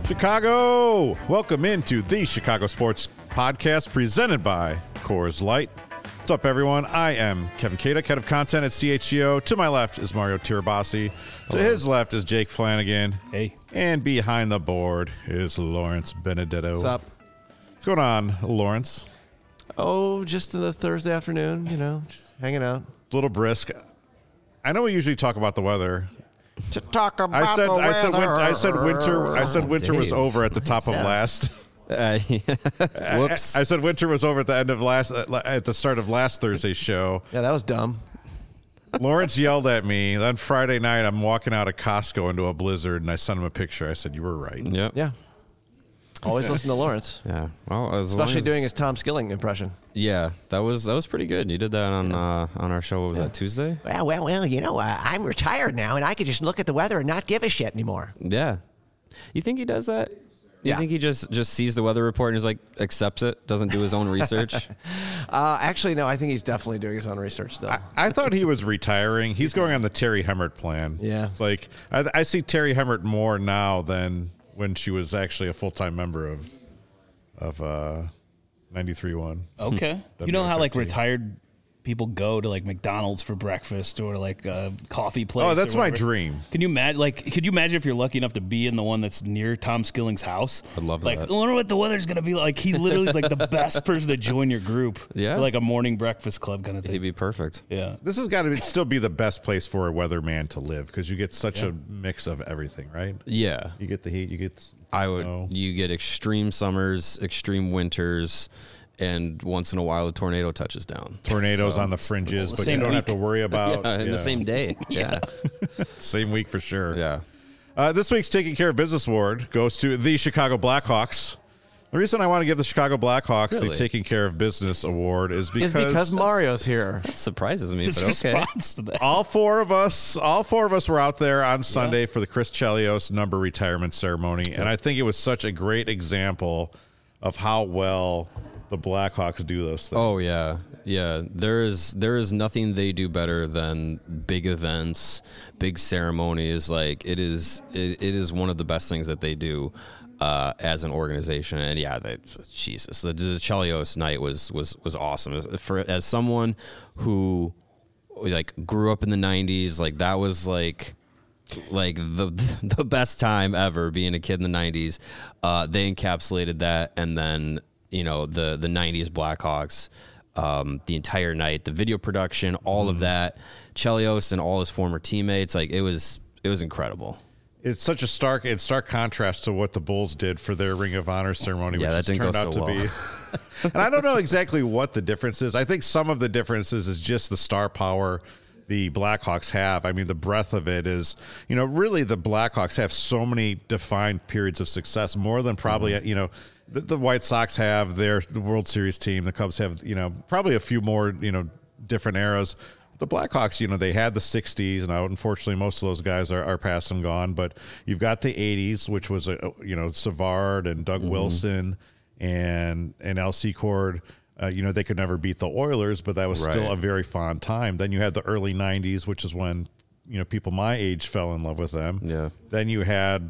Chicago! Welcome into the Chicago Sports Podcast presented by Coors Light. What's up, everyone? I am Kevin Kaduk, head of content at CHGO. To my left is Mario Tirabassi. To his left is Jake Flanagan. Hey. And behind the board is Lawrence Benedetto. What's up? What's going on, Lawrence? Oh, just the Thursday afternoon, just hanging out. A little brisk. I know we usually talk about the weather. To talk about I said winter was Dave. over at the top of last. Whoops. I said winter was over at the end of at the start of last Thursday's show. Yeah, that was dumb. Lawrence yelled at me. Then Friday night, I'm walking out of Costco into a blizzard, and I sent him a picture. I said, "You were right." Yep. Yeah. Always listen to Lawrence. Yeah. Well, Especially doing his Tom Skilling impression. Yeah, that was pretty good. You did that on our show. What was that, Tuesday? Well, I'm retired now, and I could just look at the weather and not give a shit anymore. Yeah. You think he does that? You Yeah. think he just sees the weather report and is like accepts it, doesn't do his own research? Actually, no, I think he's definitely doing his own research still. I thought he was retiring. He's going on the Terry Hemmert plan. Yeah. It's like I see Terry Hemmert more now than when she was actually a full-time member of 93.1. Okay. You know how like WFFT. retired people go to like McDonald's for breakfast or like a coffee place? Oh, that's or my whatever? dream. Can you imagine? Like, could you imagine if you're lucky enough to be in the one that's near Tom Skilling's house? I'd love like, that. I wonder what the weather's gonna be like. He literally is like the best person to join your group. Yeah. For like a morning breakfast club kind of He'd thing. be perfect. Yeah. This has got to still be the best place for a weatherman to live because you get such a mix of everything, right? Yeah. You get the heat, you get snow. You get extreme summers, extreme winters, and once in a while a tornado touches down. Tornadoes on the fringes, but you Same don't have to week. worry about In the same day. Yeah. Same week for sure. Yeah. This week's Taking Care of Business Award goes to the Chicago Blackhawks. The reason I want to give the Chicago Blackhawks the Really? Taking Care of Business Award is It's because Mario's here. That surprises me, His but okay. response to that. all four of us were out there on Sunday for the Chris Chelios number retirement ceremony, and I think it was such a great example of how well the Blackhawks do those things. Oh yeah, yeah. There is nothing they do better than big events, big ceremonies. Like it is one of the best things that they do as an organization. And yeah, Jesus, the Chelios night was awesome. As someone who like grew up in the '90s, like that was like the best time ever being a kid in the '90s. They encapsulated that, and then the '90s Blackhawks, the entire night, the video production, all of that, Chelios and all his former teammates, like it was incredible. It's such a stark contrast to what the Bulls did for their Ring of Honor ceremony, Yeah, which that has didn't turned go out so to be. And I don't know exactly what the difference is. I think some of the differences is just the star power the Blackhawks have. I mean, the breadth of it is, really the Blackhawks have so many defined periods of success, more than probably, the White Sox have the World Series team. The Cubs have, probably a few more, different eras. The Blackhawks, they had the 60s. Now, unfortunately, most of those guys are past and gone. But you've got the 80s, which was, Savard and Doug Wilson and L.C. Cord. They could never beat the Oilers, but that was still a very fond time. Then you had the early 90s, which is when, people my age fell in love with them. Yeah. Then you have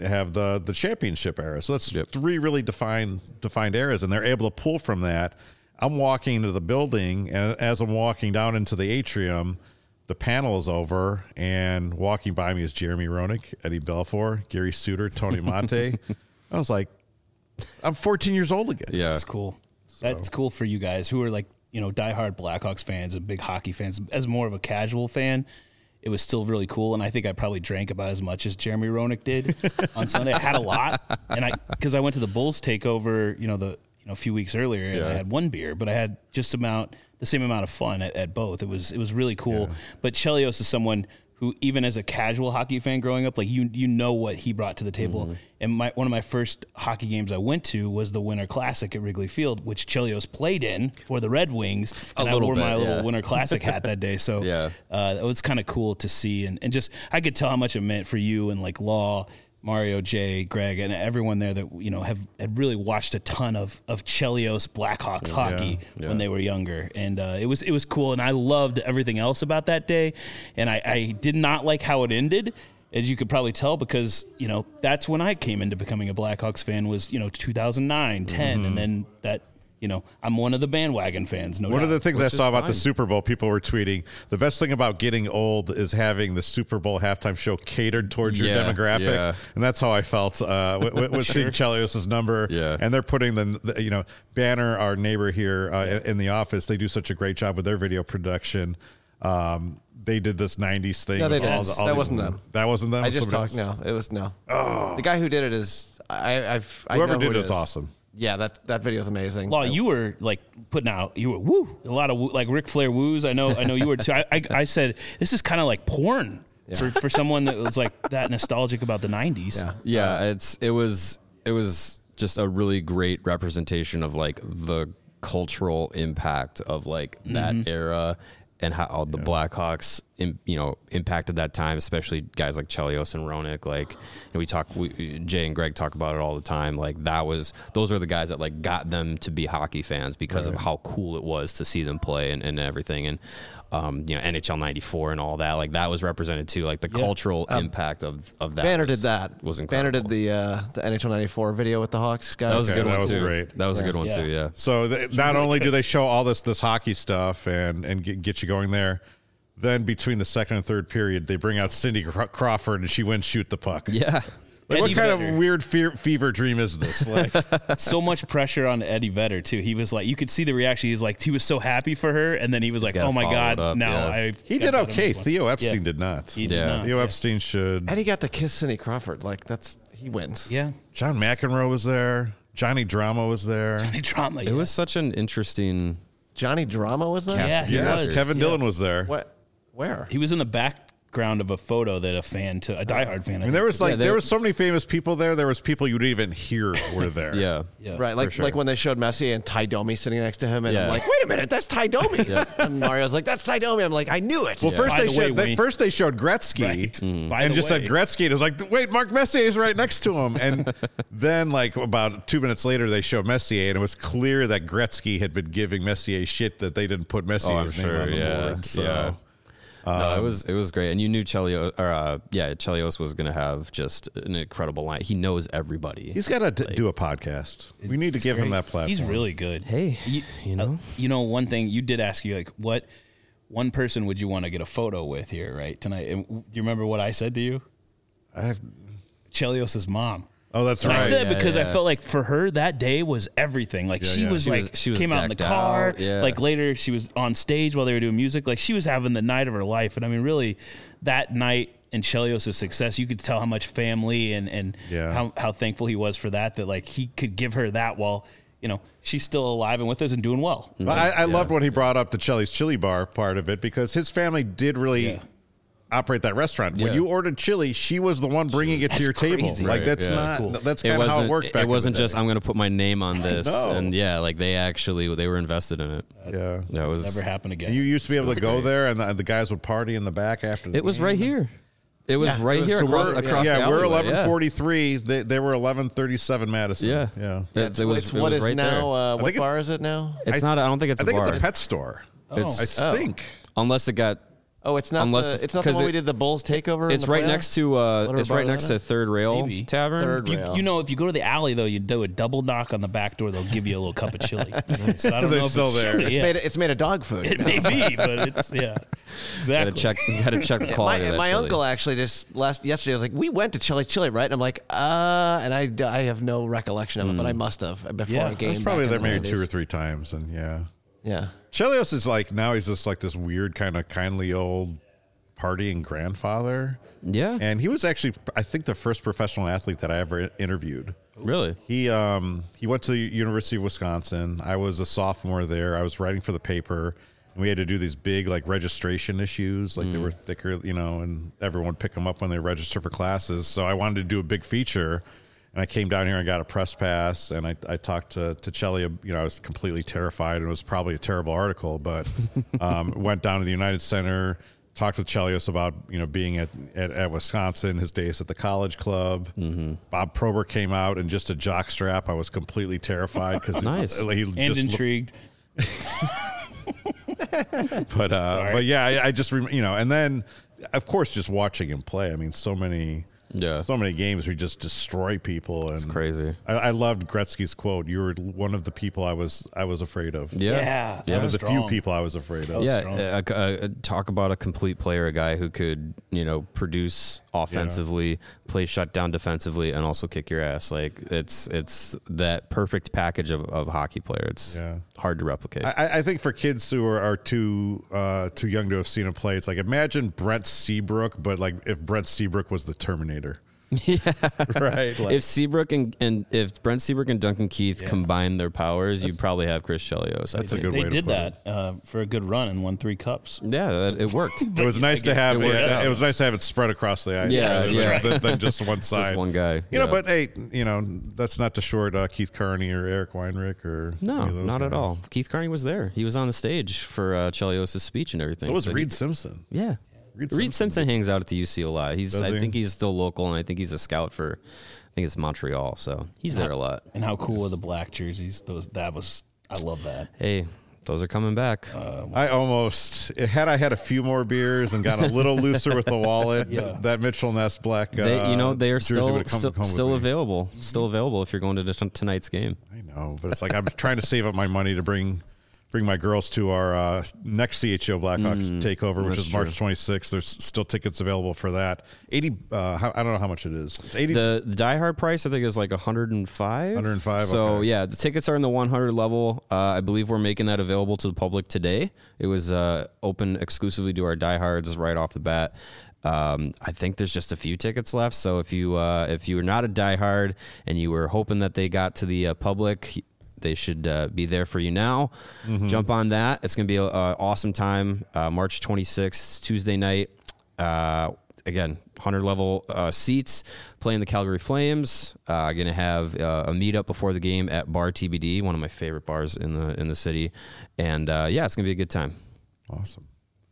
the championship era. So that's three really defined eras, and they're able to pull from that. I'm walking into the building, and as I'm walking down into the atrium, the panel is over, and walking by me is Jeremy Roenick, Eddie Belfour, Gary Suter, Tony Monte. I was like, I'm 14 years old again. Yeah. That's cool. That's cool for you guys who are like, diehard Blackhawks fans and big hockey fans. As more of a casual fan, it was still really cool. And I think I probably drank about as much as Jeremy Roenick did on Sunday. I had a lot. And because I went to the Bulls takeover, a few weeks earlier, and I had one beer, but I had just the same amount of fun at both. It was really cool. Yeah. But Chelios is someone who, even as a casual hockey fan growing up, like you know what he brought to the table. Mm-hmm. And one of my first hockey games I went to was the Winter Classic at Wrigley Field, which Chelios played in for the Red Wings. And I wore my little Winter Classic hat that day. So it was kind of cool to see. And just I could tell how much it meant for you and like Law, Mario, Jay, Greg, and everyone there that had really watched a ton of Chelios Blackhawks hockey when they were younger, and it was cool, and I loved everything else about that day, and I did not like how it ended. as you could probably tell, because, you know, that's when I came into becoming a Blackhawks fan was, you know, 2009, 10. And then that, you know, I'm one of the bandwagon fans. One of the things I saw about the Super Bowl, people were tweeting, the best thing about getting old is having the Super Bowl halftime show catered towards your demographic. Yeah. And that's how I felt with seeing Chelios' number. Yeah. And they're putting the, you know, Banner, our neighbor here in the office, they do such a great job with their video production. They did this 90s thing. No, they with didn't. all That wasn't them. That wasn't them? I just Somebody talked. else? No, it was no. Oh. The guy who did it is I Whoever know did who it is is awesome. Yeah, that video is amazing. Well, you were like putting out, you were woo, a lot of woo, like Ric Flair woos. I know you were too. I said, this is kind of like porn for someone that was like that nostalgic about the 90s. Yeah. It was just a really great representation of like the cultural impact of like that era and how the Blackhawks, impacted that time, especially guys like Chelios and Roenick. Like, Jay and Greg talk about it all the time. Like those are the guys that like got them to be hockey fans because of how cool it was to see them play and everything. And NHL '94 and all that. Like that was represented too. Like the cultural impact of that. Banner did that. Was incredible. Banner did the NHL '94 video with the Hawks guys. That was a good that one was too. great. That was a good one too. Yeah. So not only do they show all this hockey stuff and get you going there, then between the second and third period, they bring out Cindy Crawford and she wins shoot the puck. Yeah. Like, what Eddie kind Vedder. of weird fever dream is this? Like, So much pressure on Eddie Vedder too. He was like, you could see the reaction. He was so happy for her, and then he was like, gotta "Oh my follow God!" it up, Now yeah. he did okay. Theo Epstein did not. He did Yeah. not. Theo Yeah. Epstein should. And he got to kiss Cindy Crawford. Like he wins. Yeah, John McEnroe was there. Johnny Drama was there. any drama. It was such an interesting. Johnny Drama was there. Yeah, he Yes, was. Kevin Dillon was there. What? Where? He was in the background of a photo that a diehard fan. I mean, there was Yeah, there was so many famous people there. There was people you didn't even hear were there. Yeah. Yeah. Right, like sure. like when they showed Messi and Ty Domi sitting next to him, and Yeah. I'm like, wait a minute, that's Ty Domi. And Mario's like, that's Ty Domi. I'm like, I knew it. Well, By the way, first they showed Gretzky Right. By and the just said way. Gretzky. And it was like, wait, Mark Messier is right next to him. And then, like about 2 minutes later, they showed Messier, and it was clear that Gretzky had been giving Messier shit that they didn't put Messier's name on the board. So. Yeah. No, it was great, and you knew Chelios was going to have just an incredible line. He knows everybody. He's got to do a podcast. We need to give him that platform. He's really good. Hey, you know, one thing you did ask you, like, what one person would you want to get a photo with here, right, tonight? And do you remember what I said to you? Chelios' mom. Oh, that's And right. I said because I yeah. felt like for her that day was everything. Like she was She was came out in the decked car. out, yeah. Like later she was on stage while they were doing music. Like she was having the night of her life. And I mean, really, that night in Chelios' success, you could tell how much family and how thankful he was for that. That like he could give her that while she's still alive and with us and doing well. But I loved when he brought up the Chili's Chili Bar part of it because his family did really operate that restaurant. When Yeah. you ordered chili, she was the one bringing it to your table. crazy. Like Right, that's yeah. not. That's cool. That's kind of how it worked back. It wasn't in the just day. I'm going to put my name on this, know. and like they were invested in it. Yeah. That was Never happen again. You used to be able to go there, and the guys would party in the back after. The It was game. right here. It was Yeah, right it was- here so across we're- across the Yeah, we're alleyway. 11:43. They were 11:37 Madison. Yeah. yeah. It's, It was it's what is right now. I What think bar is it now? there. It's not. I don't think it's I a think bar. it's a pet store. It's I think. unless it got. Oh, it's not. Unless- It's not the 'cause one it- we did the Bulls takeover. in It's the right playoffs? next to. Whatever It's bar right that next is? to Third Rail Maybe. Tavern. Third If rail. if you go to the alley though, you do a double knock on the back door. They'll give you a little cup of chili. So I don't They're know if still it's there. chili, It's yeah. made. It's made of dog food. It may be, but it's exactly. You gotta check the quality. of that My chili. uncle actually just yesterday was like, we went to Chili's Chili, right? And I'm like, and I have no recollection of it, but I must have before Yeah. a game. I was probably back there in the maybe 2 or 90s. 3 times, and yeah. Yeah. Chelios is like now he's just like this weird kind of kindly old partying grandfather. Yeah. And he was actually, I think, the first professional athlete that I ever interviewed. Really. He went to the University of Wisconsin. I was a sophomore there. I was writing for the paper, and we had to do these big like registration issues. Like they were thicker, and everyone would pick them up when they register for classes. So I wanted to do a big feature, and I came down here and got a press pass. And I talked to Chelly. I was completely terrified, and it was probably a terrible article, but went down to the United Center. Talked with Chelios about being at Wisconsin, his days at the college club. Mm-hmm. Bob Probert came out in just a jock strap. I was completely terrified because Nice. he and just intrigued. but yeah, I just and then of course, just watching him play. I mean, so many games we just destroy people. And It's crazy. I loved Gretzky's quote. You were one of the people I was afraid of. Yeah, One of the few strong. people I was afraid of. Yeah, talk about a complete player, a guy who could, produce offensively, play shutdown defensively, and also kick your ass. Like it's that perfect package of hockey player. It's hard to replicate. I think for kids who are too young to have seen him play, it's like imagine Brent Seabrook, but like if Brent Seabrook was the Terminator. Yeah, right. Like, if Seabrook and if Brent Seabrook and Duncan Keith combine their powers, you'd probably have Chris Chelios. That's a good way to They did put it. that for a good run and won 3 cups. Yeah, it worked. It was nice to have it was nice to have it spread across the ice. Yeah, than just one side. Just one guy. But hey, that's not to short Keith Carney or Eric Weinrich or No, any of those not at guys. all. Keith Carney was there. He was on the stage for Chelios' speech and everything. So was But Reed Simpson. Yeah. Reed Simpson hangs out at the UC a lot. I think he's still local, and I think he's a scout for, I think it's Montreal. So he's there a lot. And how cool are the black jerseys? I love that. Hey, those are coming back. I had a few more beers and gotten a little looser with the wallet. That Mitchell Ness black. They are jersey still would've come with still me. available. Still available if you're going to tonight's game. I know, but it's like I'm trying to save up my money to bring my girls to our next CHO Blackhawks takeover, which is March 26th. There's still tickets available for that. 80. I don't know how much it is. It's 80. The diehard price I think is like 105. 105. So okay. yeah, the tickets are in the 100 level. I believe we're making that available to the public today. It was open exclusively to our diehards right off the bat. I think there's just a few tickets left. So if you were not a diehard and you were hoping that they got to the public, they should be there for you now. Jump on that. It's going to be an awesome time. March 26th, Tuesday night. Again, 100 level seats, playing the Calgary Flames. Going to have a meetup before the game at Bar TBD, one of my favorite bars in the city. And it's going to be a good time. Awesome.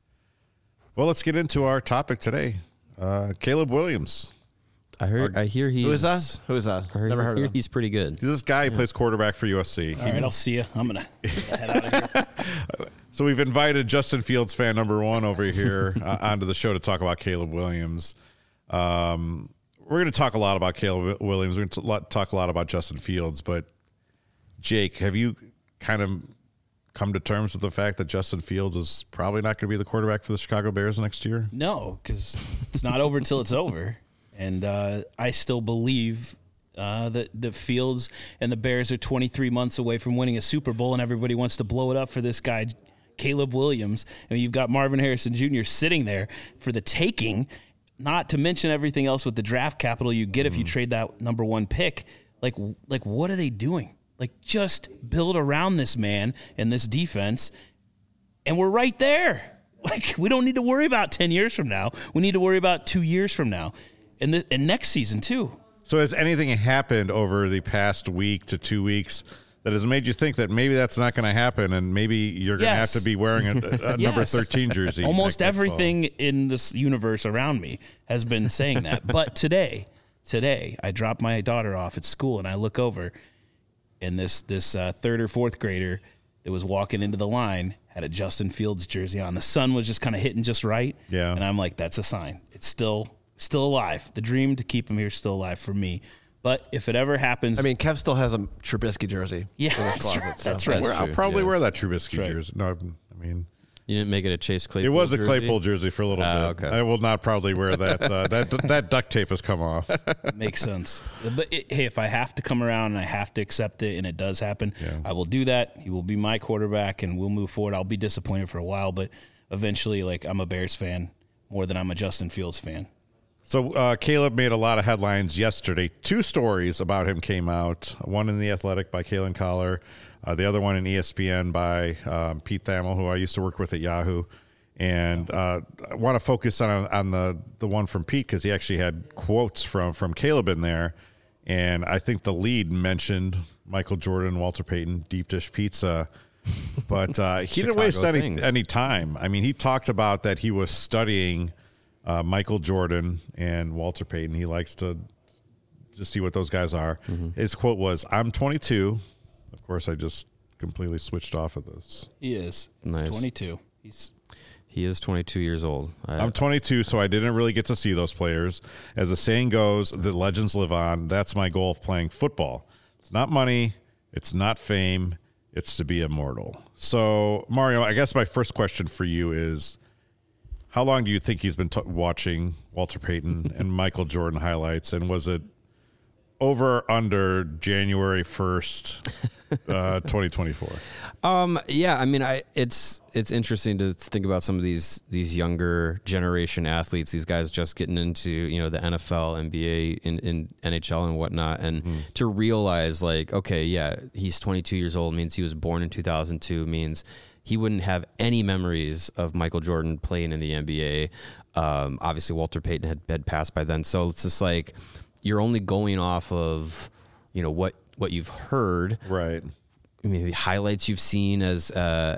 Well, let's get into our topic today. Caleb Williams. I hear he's... Who is that? Who is that? Never heard of him. He's pretty good. He's this guy who plays quarterback for USC. All right, I'll see you. I'm going to head out of here. So we've invited Justin Fields fan number 1 over here onto the show to talk about Caleb Williams. We're going to talk a lot about Caleb Williams. We're going to talk a lot about Justin Fields. But, Jake, have you kind of come to terms with the fact that Justin Fields is probably not going to be the quarterback for the Chicago Bears next year? No, because it's not over until it's over. And I still believe that Fields and the Bears are 23 months away from winning a Super Bowl, and everybody wants to blow it up for this guy, Caleb Williams. And you've got Marvin Harrison Jr. sitting there for the taking, not to mention everything else with the draft capital you get if you trade that number 1 pick. Like what are they doing? Like, just build around this man and this defense, and we're right there. Like, we don't need to worry about 10 years from now. We need to worry about 2 years from now. And next season, too. So has anything happened over the past week to 2 weeks that has made you think that maybe that's not going to happen and maybe you're going to have to be wearing a number 13 jersey? Almost next everything in this universe around me has been saying that. But today, I dropped my daughter off at school, and I look over, and this 3rd or 4th grader that was walking into the line had a Justin Fields jersey on. The sun was just kind of hitting just right. Yeah. And I'm like, that's a sign. It's still alive. The dream to keep him here is still alive for me. But if it ever happens, I mean, Kev still has a Trubisky jersey. Yeah, in his that's closet, right. so. That's right. I'll probably Yeah. wear that Trubisky jersey. No, I mean, You didn't make it a Chase Claypool it was a jersey? Claypool jersey for a little bit. Okay. I will not probably wear that. That duct tape has come off. makes sense. But hey, if I have to come around and I have to accept it, and it does happen, I will do that. He will be my quarterback, and we'll move forward. I'll be disappointed for a while, but eventually, like, I'm a Bears fan more than I'm a Justin Fields fan. So Caleb made a lot of headlines yesterday. 2 stories about him came out. One in The Athletic by Kalen Collar. The other one in ESPN by Pete Thamel, who I used to work with at Yahoo. And I want to focus on the one from Pete because he actually had quotes from Caleb in there. And I think the lead mentioned Michael Jordan, Walter Payton, deep dish pizza. But he didn't waste any time. I mean, he talked about that he was studying Michael Jordan and Walter Payton. He likes to just see what those guys are. His quote was, "I'm 22." Of course, I just completely switched off of this. He is. Nice. He's 22. He is 22 years old. I'm 22, so I didn't really get to see those players. As the saying goes, the legends live on. That's my goal of playing football. It's not money. It's not fame. It's to be immortal. So, Mario, I guess my first question for you is, how long do you think he's been watching Walter Payton and Michael Jordan highlights? And was it over or under January 1st, 2024? Yeah, I mean, it's interesting to think about some of these younger generation athletes, these guys just getting into, you know, the NFL, NBA, in NHL and whatnot, and to realize, like, okay, yeah, he's 22 years old, means he was born in 2002, means he wouldn't have any memories of Michael Jordan playing in the NBA. Obviously, Walter Payton had passed by then, so it's just like you're only going off of, you know, what you've heard, Right. maybe highlights you've seen as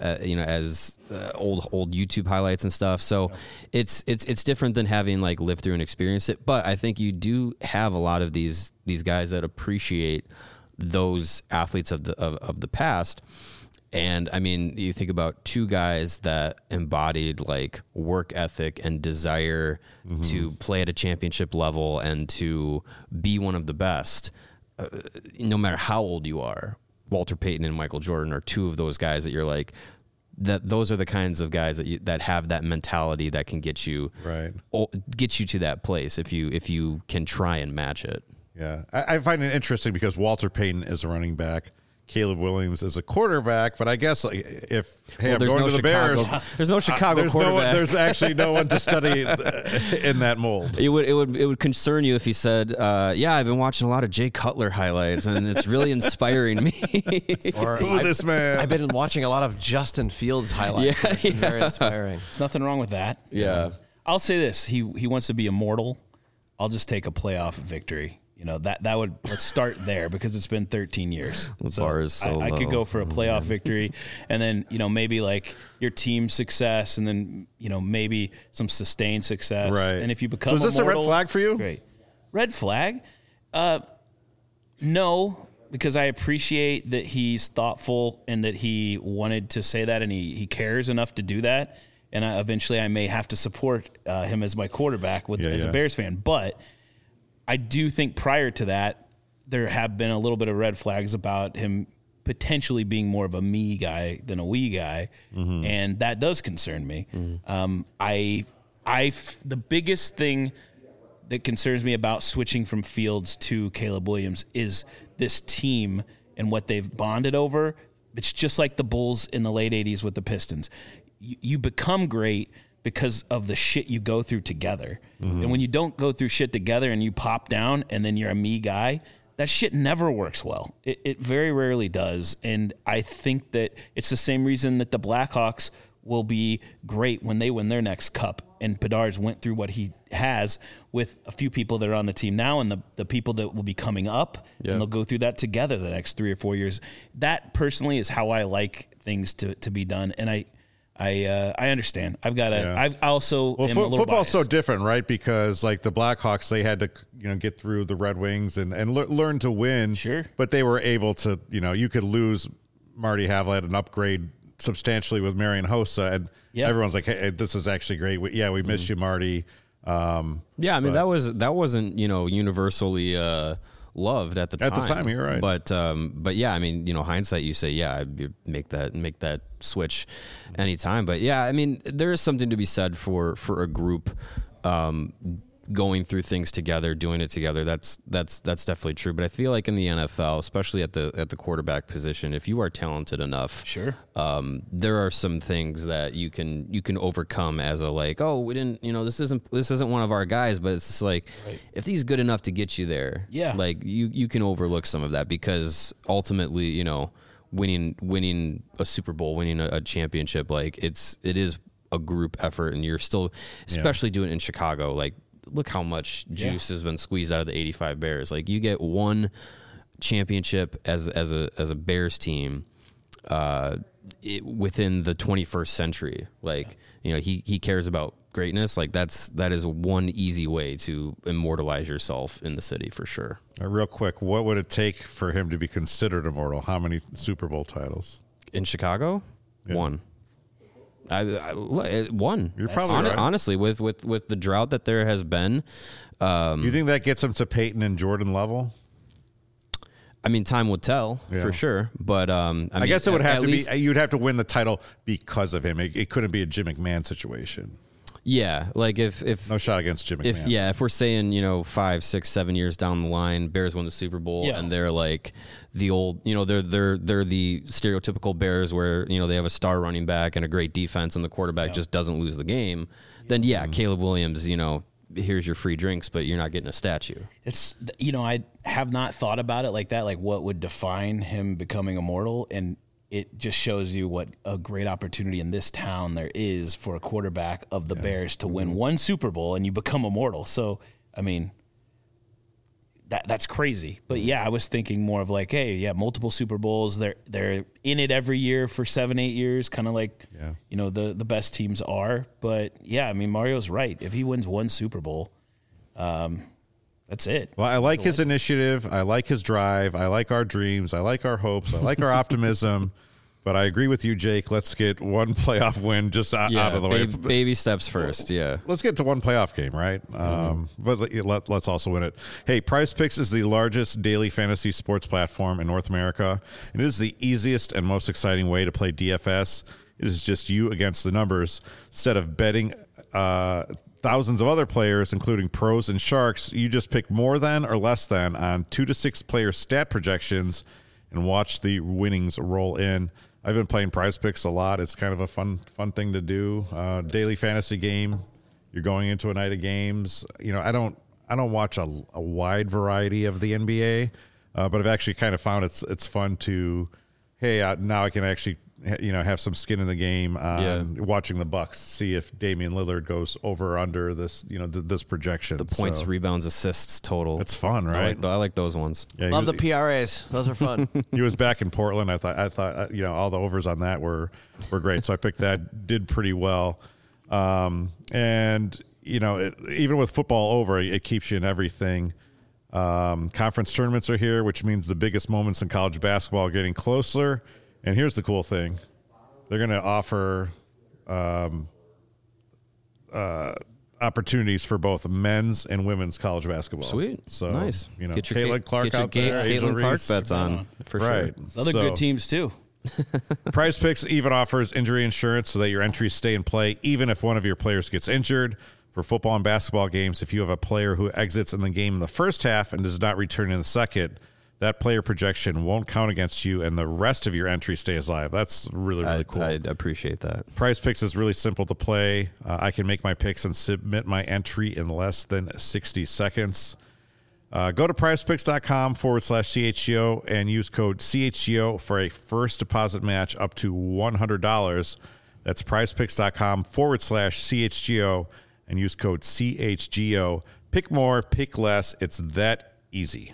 old YouTube highlights and stuff. So it's different than having like lived through and experienced it. But I think you do have a lot of these guys that appreciate those athletes of the past. And I mean, you think about two guys that embodied like work ethic and desire to play at a championship level and to be one of the best, no matter how old you are. Walter Payton and Michael Jordan are two of those guys that you're like, that those are the kinds of guys that have that mentality that can get you to that place if you can try and match it. Yeah. I find it interesting because Walter Payton is a running back. Caleb Williams is a quarterback, but I guess like, I'm going to the Bears. There's no Chicago quarterback. There's actually no one to study in that mold. It would concern you if he said, "Yeah, I've been watching a lot of Jay Cutler highlights, and it's really inspiring me." Or this man. I've been watching a lot of Justin Fields highlights. Yeah, It's been very inspiring. There's nothing wrong with that. Yeah. I'll say this: he wants to be immortal. I'll just take a playoff victory. You know, that would, let's start there because it's been 13 years. The bar is so I could low. go for a playoff victory and then, you know, maybe like your team success and then, you know, maybe some sustained success. Right. And if you become So is this immortal, a red flag for you? Great. Red flag? No, because I appreciate that he's thoughtful and that he wanted to say that and he cares enough to do that. And eventually I may have to support him as my quarterback as a Bears fan. But I do think prior to that, there have been a little bit of red flags about him potentially being more of a me guy than a we guy, and that does concern me. The biggest thing that concerns me about switching from Fields to Caleb Williams is this team and what they've bonded over. It's just like the Bulls in the late 80s with the Pistons. You become great because of the shit you go through together. And when you don't go through shit together and you pop down and then you're a me guy, that shit never works well. It very rarely does. And I think that it's the same reason that the Blackhawks will be great when they win their next cup. And Bedard's went through what he has with a few people that are on the team now and the people that will be coming up, and they'll go through that together the next 3 or 4 years. That personally is how I like things to be done. And I understand. I've got to. Yeah. I also am a little football's biased. so different, right? Because like the Blackhawks, they had to get through the Red Wings and learn to win. Sure, but they were able to. You could lose Marty Havlat and upgrade substantially with Marian Hossa, and everyone's like, "Hey, this is actually great. We miss you, Marty." Yeah, I mean that wasn't universally loved at the time. At the time, you're right. But yeah, I mean, hindsight, you say, yeah, I'd make that switch anytime. But yeah, I mean, there is something to be said for a group going through things together, doing it together. That's definitely true. But I feel like in the NFL, especially at the quarterback position, if you are talented enough, sure, there are some things that you can overcome as a like, oh, we didn't, this isn't one of our guys, but it's just like, if he's good enough to get you there, like you can overlook some of that because ultimately, winning a Super Bowl, winning a championship, like it is a group effort, and you're still, especially doing it in Chicago, like. Look how much juice has been squeezed out of the 85 Bears. Like you get one championship as a Bears team within the 21st century. Like, he cares about greatness. Like that is one easy way to immortalize yourself in the city for sure. Real quick, what would it take for him to be considered immortal? How many Super Bowl titles? In Chicago? Yeah. One. It won. You're probably right. Honestly, with the drought that there has been. You think that gets him to Peyton and Jordan level? I mean, time will tell for sure, but I guess it would have to be. You'd have to win the title because of him. It couldn't be a Jim McMahon situation. Yeah, like if no shot against Jim McMahon. If we're saying 5, 6, 7 years down the line, Bears win the Super Bowl, and they're like the old, they're the stereotypical Bears where they have a star running back and a great defense, and the quarterback just doesn't lose the game. Then Caleb Williams, here's your free drinks, but you're not getting a statue. It's I have not thought about it like that. Like what would define him becoming immortal, and it just shows you what a great opportunity in this town there is for a quarterback of the Bears to win one Super Bowl and you become immortal. So, I memean, that's crazy. But I was thinking more of like, hey, multiple Super Bowls. They're in it every year for 7-8 years, kind of like the best teams are. But I mean, Mario's right. If he wins one Super Bowl, that's it. Well, I like his initiative. I like his drive. I like our dreams. I like our hopes. I like our optimism. But I agree with you, Jake. Let's get one playoff win just out of the way. Baby steps first, Let's get to one playoff game, right? But let's also win it. Hey, Prize Picks is the largest daily fantasy sports platform in North America. It is the easiest and most exciting way to play DFS. It is just you against the numbers. Instead of betting thousands of other players, including pros and sharks, you just pick more than or less than on 2 to 6 player stat projections and watch the winnings roll in. I've been playing Prize Picks a lot. It's kind of a fun thing to do. Daily fantasy game. You're going into a night of games. I don't watch a wide variety of the NBA, but I've actually kind of found it's fun to, now I can actually have some skin in the game on watching the Bucks, see if Damian Lillard goes over or under this, this projection. The points, rebounds, assists total. It's fun, right? I like those ones. Yeah, love the PRAs. Those are fun. He was back in Portland. I thought all the overs on that were great. So I picked that, did pretty well. Even with football over, it keeps you in everything. Conference tournaments are here, which means the biggest moments in college basketball are getting closer. And here's the cool thing. They're going to offer opportunities for both men's and women's college basketball. Sweet. So, nice. Get your Caitlin Clark out there. Caitlin Clark bets on, for sure. Other good teams, too. Prize Picks even offers injury insurance so that your entries stay in play, even if one of your players gets injured. For football and basketball games, if you have a player who exits in the game in the first half and does not return in the second, that player projection won't count against you, and the rest of your entry stays live. That's really, really cool. I appreciate that. Prize Picks is really simple to play. I can make my picks and submit my entry in less than 60 seconds. Go to prizepicks.com/CHGO and use code CHGO for a first deposit match up to $100. That's prizepicks.com/CHGO and use code CHGO. Pick more, pick less. It's that easy.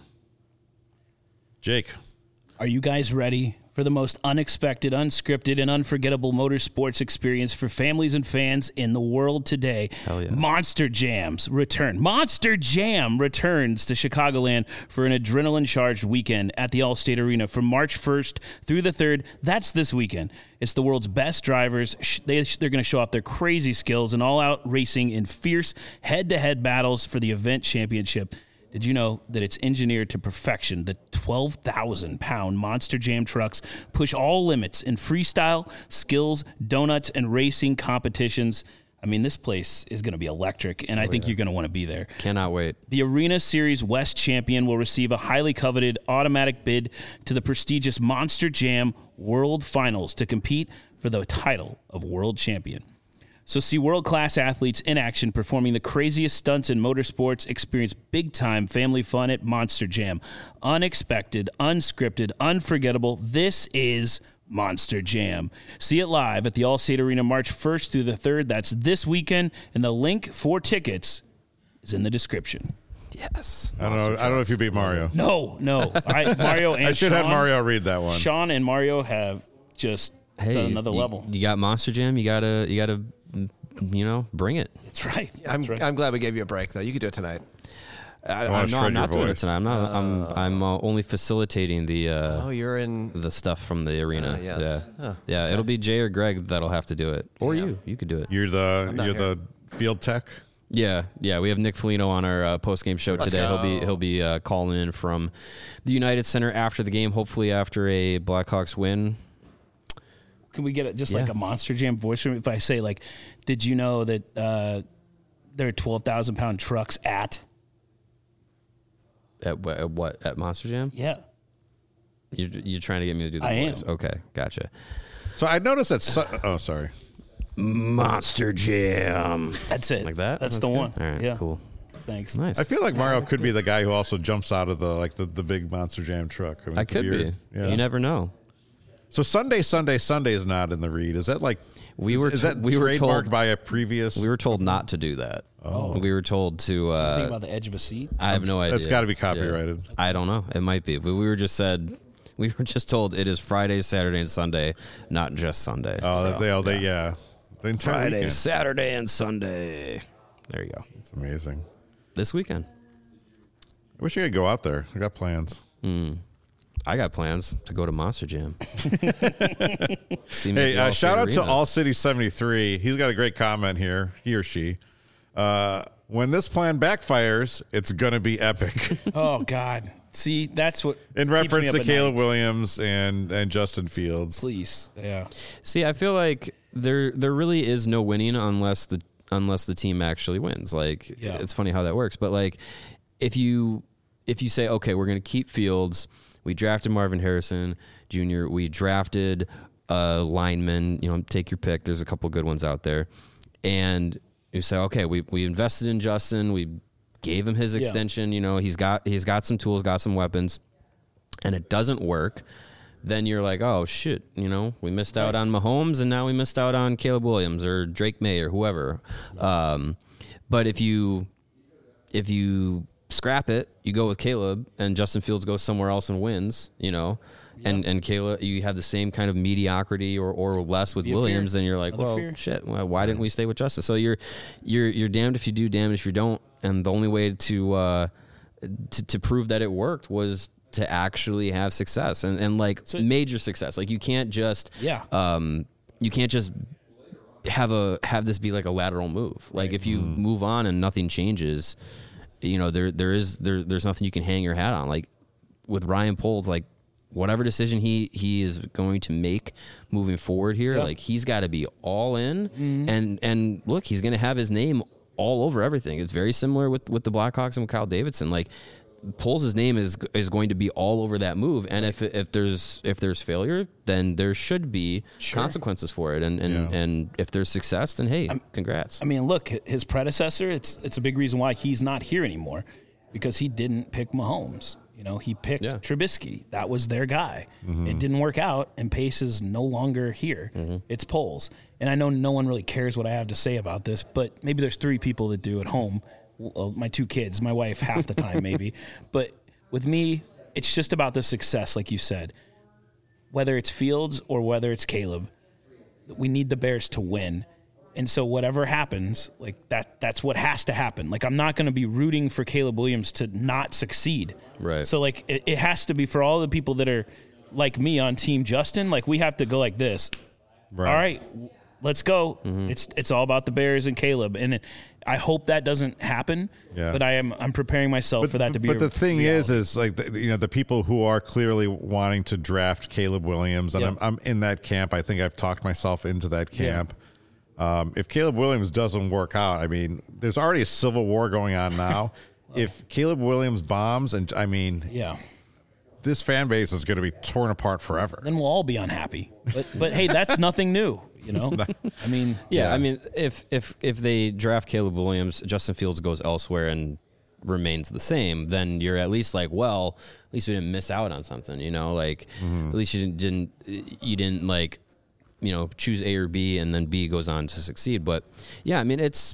Jake. Are you guys ready for the most unexpected, unscripted, and unforgettable motorsports experience for families and fans in the world today? Hell yeah. Monster Jams return. Monster Jam returns to Chicagoland for an adrenaline-charged weekend at the Allstate Arena from March 1st through the 3rd. That's this weekend. It's the world's best drivers. They're going to show off their crazy skills and all-out racing in fierce head-to-head battles for the event championship. Did you know that it's engineered to perfection? The 12,000-pound Monster Jam trucks push all limits in freestyle, skills, donuts, and racing competitions. I mean, this place is going to be electric, and I think you're going to want to be there. Cannot wait. The Arena Series West champion will receive a highly coveted automatic bid to the prestigious Monster Jam World Finals to compete for the title of World Champion. So see world-class athletes in action performing the craziest stunts in motorsports. Experience big-time family fun at Monster Jam. Unexpected, unscripted, unforgettable. This is Monster Jam. See it live at the Allstate Arena March 1st through the 3rd. That's this weekend, and the link for tickets is in the description. Yes. I don't know if you beat Mario. No. Mario and I should have Mario read that one. Sean and Mario have just it's on another level. You got Monster Jam. You gotta bring it. That's right. I'm glad we gave you a break, though. You could do it tonight. I'm shred not your doing it voice. tonight. I'm only facilitating the You're in. the stuff from the arena. yes. Yeah, Huh. yeah. It'll be Jay or Greg that'll have to do it, or you. You could do it. You're the field tech. Yeah. We have Nick Foligno on our post game show today. go. He'll be calling in from the United Center after the game. Hopefully after a Blackhawks win. Can we get like a Monster Jam voice from if I say like, did you know that there are 12,000-pound trucks at? At what? At Monster Jam? Yeah. You're trying to get me to do the I voice. am. Okay, gotcha. So I noticed that. Oh, sorry. Monster Jam. That's it. Like that? That's the good? one. All right, Yeah. cool. Thanks. Nice. I feel like Mario could be the guy who also jumps out of the big Monster Jam truck. I could be. Yeah. You never know. So Sunday is not in the read. Is that like We were is that we were trademarked told by a previous? we were told not to do that. Oh. We were told to. Think about the edge of a seat. I have no idea. That's got to be copyrighted. Yeah. I don't know. It might be, but we were just told it is Friday, Saturday, and Sunday, not just Sunday. Oh, So, the entire Friday, weekend. Saturday, and Sunday. There you go. It's amazing. This weekend. I wish I could go out there. I got plans. I got plans to go to Monster Jam. See me at the Hey, Allstate shout out to Arena. All City 73. He's got a great comment here. He or she. When this plan backfires, it's gonna be epic. Oh God. See, that's what In keeps me reference up to at Caleb night. Williams and Justin Fields. Please. Yeah. See, I feel like there really is no winning unless the team actually wins. Like it's funny how that works, but like if you say, okay, we're going to keep Fields, we drafted Marvin Harrison Jr., we drafted a lineman, take your pick. There's a couple good ones out there, and you say, okay, we invested in Justin, we gave him his extension. He's got some tools, got some weapons, and it doesn't work. Then you're like, oh shit, we missed out on Mahomes, and now we missed out on Caleb Williams or Drake May or whoever. But if you scrap it, you go with Caleb, and Justin Fields goes somewhere else and wins, and Caleb, you have the same kind of mediocrity or less with Williams, then you're like, shit, why didn't we stay with Justin? So you're damned if you do, damned if you don't, and the only way to prove that it worked was to actually have success and major success. Like you can't just have this be like a lateral move. Like if you move on and nothing changes, there's nothing you can hang your hat on. Like with Ryan Poles, like whatever decision he is going to make moving forward here, like he's got to be all in. And look, he's going to have his name all over everything. It's very similar with the Blackhawks and with Kyle Davidson. Like Poles' name is going to be all over that move, and if there's failure, then there should be consequences for it, and if there's success, then hey, congrats. I mean, look, his predecessor. It's a big reason why he's not here anymore, because he didn't pick Mahomes. He picked Trubisky. That was their guy. It didn't work out, and Pace is no longer here. It's Poles, and I know no one really cares what I have to say about this, but maybe there's 3 people that do at home. Well, my 2 kids, my wife half the time maybe. But with me, it's just about the success, like you said. Whether it's Fields or whether it's Caleb, we need the Bears to win. And so whatever happens, like that's what has to happen. Like I'm not going to be rooting for Caleb Williams to not succeed. Right. So like it has to be for all the people that are like me on Team Justin, like we have to go like this. Right. All right, let's go. It's all about the Bears and Caleb. And I hope that doesn't happen. Yeah. But I'm preparing myself for that to be. But the thing is like the people who are clearly wanting to draft Caleb Williams, and I'm in that camp. I think I've talked myself into that camp. If Caleb Williams doesn't work out, I mean, there's already a civil war going on now. If Caleb Williams bombs, and I mean, this fan base is going to be torn apart forever. Then we'll all be unhappy. But hey, that's nothing new. I mean, I mean, if they draft Caleb Williams, Justin Fields goes elsewhere and remains the same, then you're at least like, well, at least we didn't miss out on something, like at least you didn't like, choose A or B and then B goes on to succeed. But yeah, I mean, it's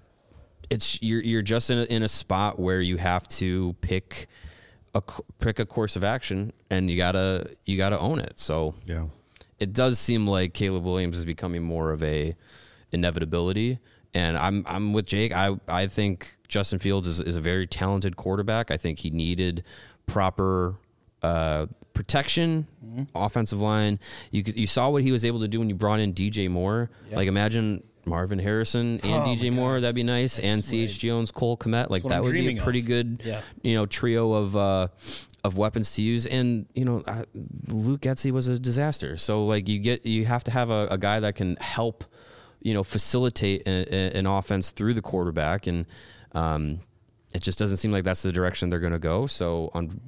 you're just in a spot where you have to pick a course of action, and you gotta own it. So Yeah. it does seem like Caleb Williams is becoming more of a inevitability. And I'm with Jake. I think Justin Fields is a very talented quarterback. I think he needed proper protection, offensive line. You saw what he was able to do when you brought in DJ Moore. Yep. Like imagine Marvin Harrison and DJ Moore. That'd be nice. And CH Jones, Cole Kmet. Like that would be a pretty good, trio of weapons to use. And Luke Getsy was a disaster. So like you have to have a guy that can help, facilitate an offense through the quarterback. And it just doesn't seem like that's the direction they're going to go. So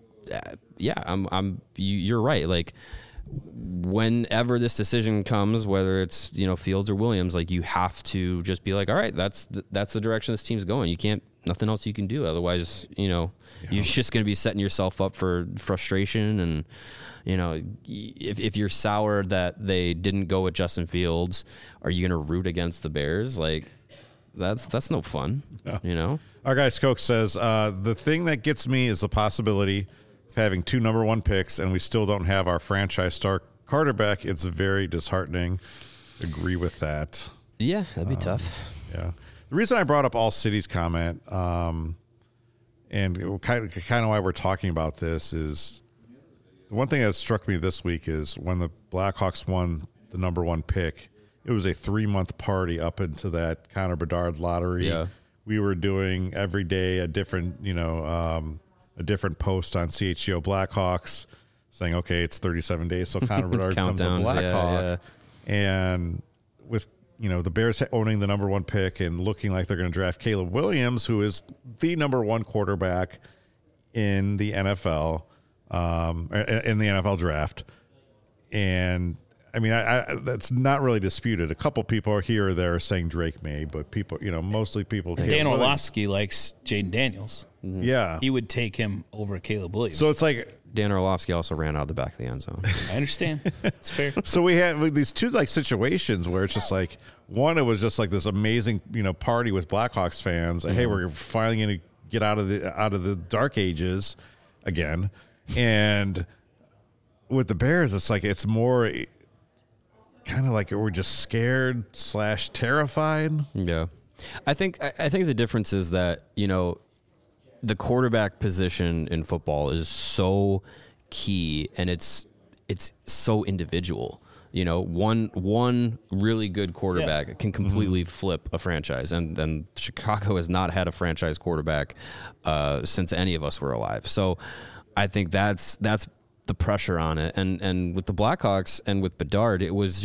you're right. Like whenever this decision comes, whether it's, Fields or Williams, like you have to just be like, all right, that's the direction this team's going. You can't, nothing else you can do. Otherwise, you're just going to be setting yourself up for frustration. And, if you're sour that they didn't go with Justin Fields, are you going to root against the Bears? Like that's no fun, Our guy Skoke says, the thing that gets me is the possibility of having 2 number 1 picks and we still don't have our franchise star quarterback. It's very disheartening. Agree with that. Yeah, that'd be tough. Yeah. The reason I brought up All City's comment, and kind of why we're talking about this is the one thing that struck me this week is when the Blackhawks won the number 1 pick, it was a 3-month party up into that Connor Bedard lottery. Yeah. We were doing every day a different, a different post on CHGO Blackhawks saying, okay, it's 37 days, so Connor Bedard becomes a Blackhawk. And with, the Bears owning the number 1 pick and looking like they're going to draft Caleb Williams, who is the number 1 quarterback in the NFL, in the NFL draft. And I mean, I that's not really disputed. A couple people are here or there saying Drake may, but people, mostly people. Dan Orlovsky likes Jaden Daniels. Mm-hmm. Yeah. He would take him over Caleb Williams. So it's like Dan Orlovsky also ran out of the back of the end zone. I understand. It's fair. So we had these 2 like situations where it's just like one, it was just like this amazing, party with Blackhawks fans. Mm-hmm. Hey, we're finally going to get out of the dark ages again. And with the Bears, it's like it's more kind of like we're just scared / terrified. Yeah. I think the difference is that, the quarterback position in football is so key and it's so individual. One really good quarterback can completely flip a franchise, and Chicago has not had a franchise quarterback since any of us were alive. So I think that's the pressure on it. And with the Blackhawks and with Bedard, it was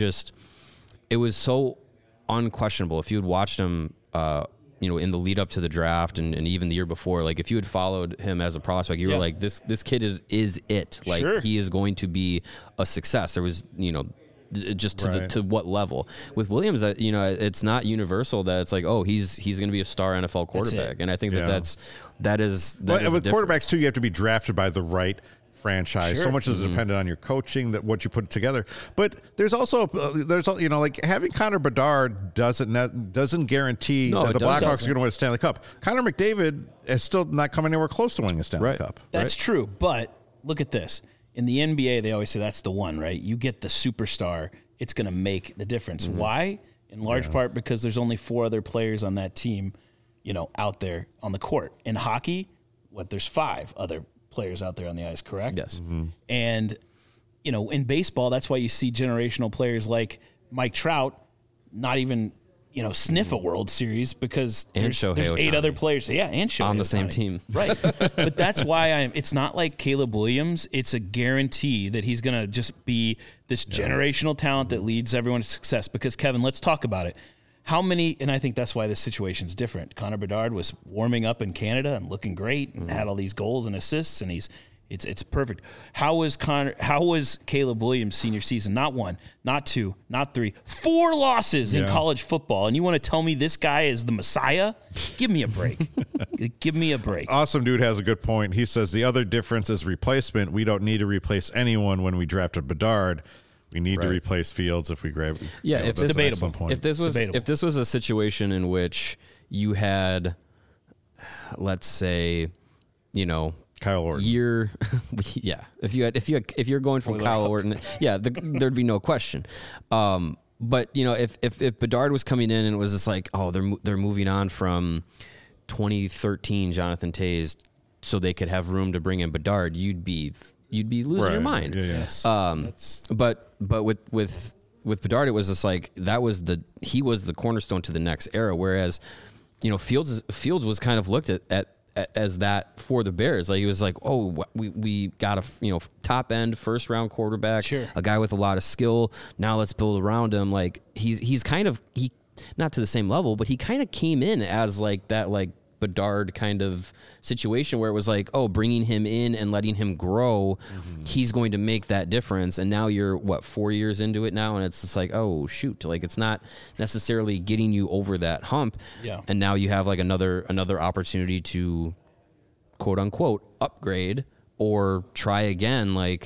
so unquestionable. If you had watched him, in the lead up to the draft and even the year before, like if you had followed him as a prospect, you were like, this kid is it. Like he is going to be a success. There was, just to what level. With Williams, it's not universal that it's like, oh, he's going to be a star NFL quarterback. And I think that is with quarterbacks too, you have to be drafted by the right franchise. Sure. So much is dependent on your coaching, that what you put together. But there's also like having Connor Bedard doesn't guarantee that the Blackhawks are going to win a Stanley Cup. Connor McDavid is still not coming anywhere close to winning a Stanley Cup. That's true. But look at this. In the NBA, they always say that's the one, right? You get the superstar, it's going to make the difference. Mm-hmm. Why? In large part because there's only 4 other players on that team, out there on the court. In hockey, there's 5 other players out there on the ice, correct? Yes. Mm-hmm. And, in baseball, that's why you see generational players like Mike Trout not even, sniff a World Series because there's 8 other players. Yeah, and Shohei on the Ohtani. same team. Right. But that's why it's not like Caleb Williams. It's a guarantee that he's going to just be this generational talent that leads everyone to success. Because, Kevin, let's talk about it. How many, and I think that's why this situation's different. Connor Bedard was warming up in Canada and looking great and had all these goals and assists, and it's perfect. How was Caleb Williams' senior season? Not 1, not 2, not 3, 4 losses in college football, and you want to tell me this guy is the Messiah? Give me a break. Give me a break. Awesome Dude has a good point. He says the other difference is replacement. We don't need to replace anyone when we drafted Bedard. We need to replace Fields if we grab. Yeah, it's debatable. If this was a situation in which you had, let's say, Kyle Orton. If you're going from Kyle Orton, there'd be no question. But you know, if Bedard was coming in and it was just like, oh, they're moving on from 2013 Jonathan Toews, so they could have room to bring in Bedard, you'd be losing your mind. Yes. But with Bedard, it was just like he was the cornerstone to the next era. Whereas, you know, Fields was kind of looked at as that for the Bears. Like he was like, oh, we got a top end first round quarterback, Sure. a guy with a lot of skill. Now let's build around him. Like he's kind of not to the same level, but he kind of came in as like that like Bedard kind of situation where it was like, oh, bringing him in and letting him grow, he's going to make that difference. And now you're 4 years into it now, and it's just like, oh shoot, like it's not necessarily getting you over that hump. Yeah. And now you have like another opportunity to quote unquote upgrade or try again. Like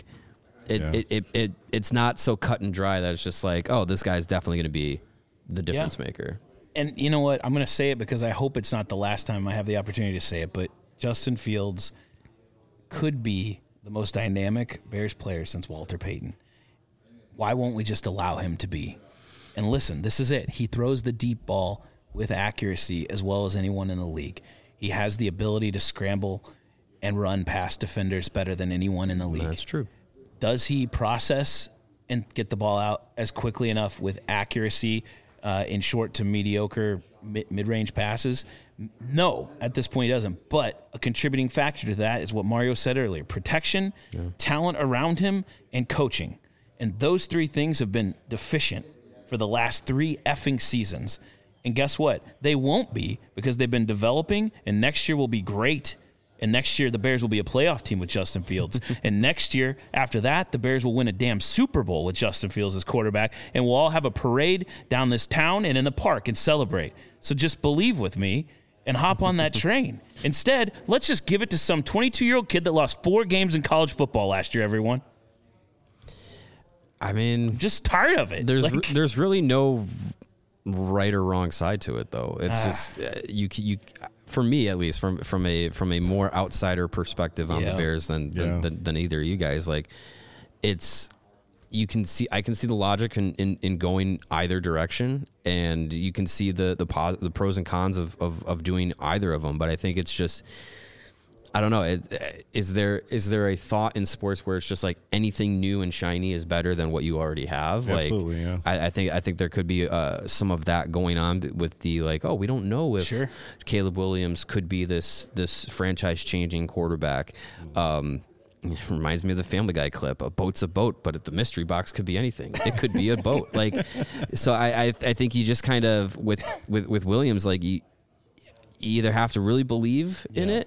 it's not so cut and dry that it's just like, oh, this guy's definitely going to be the difference maker. And you know what? I'm going to say it because I hope it's not the last time I have the opportunity to say it, but Justin Fields could be the most dynamic Bears player since Walter Payton. Why won't we just allow him to be? And listen, this is it. He throws the deep ball with accuracy as well as anyone in the league. He has the ability to scramble and run past defenders better than anyone in the league. That's true. Does he process and get the ball out as quickly enough with accuracy in short to mediocre mid-range passes? No, at this point he doesn't. But a contributing factor to that is what Mario said earlier: protection, talent around him, and coaching. And those three things have been deficient for the last 3 effing seasons. And guess what? They won't be, because they've been developing, and next year will be great. And next year, the Bears will be a playoff team with Justin Fields. And next year, after that, the Bears will win a damn Super Bowl with Justin Fields as quarterback. And we'll all have a parade down this town and in the park and celebrate. So just believe with me and hop on that train. Instead, let's just give it to some 22-year-old kid that lost 4 games in college football last year, everyone. I mean, I'm just tired of it. There's really no right or wrong side to it, though. It's just you for me, at least, from a more outsider perspective on the Bears than either of you guys. Like, it's I can see the logic in going either direction, and you can see the pros and cons of doing either of them. But I think it's just, I don't know. Is there a thought in sports where it's just like anything new and shiny is better than what you already have? Absolutely, like, yeah. I think there could be some of that going on with the like, oh, we don't know if Caleb Williams could be this franchise changing quarterback. It reminds me of the Family Guy clip: "A boat's a boat, but the mystery box could be anything. It could be a boat." Like, so I think you just kind of with Williams, like you either have to really believe in it.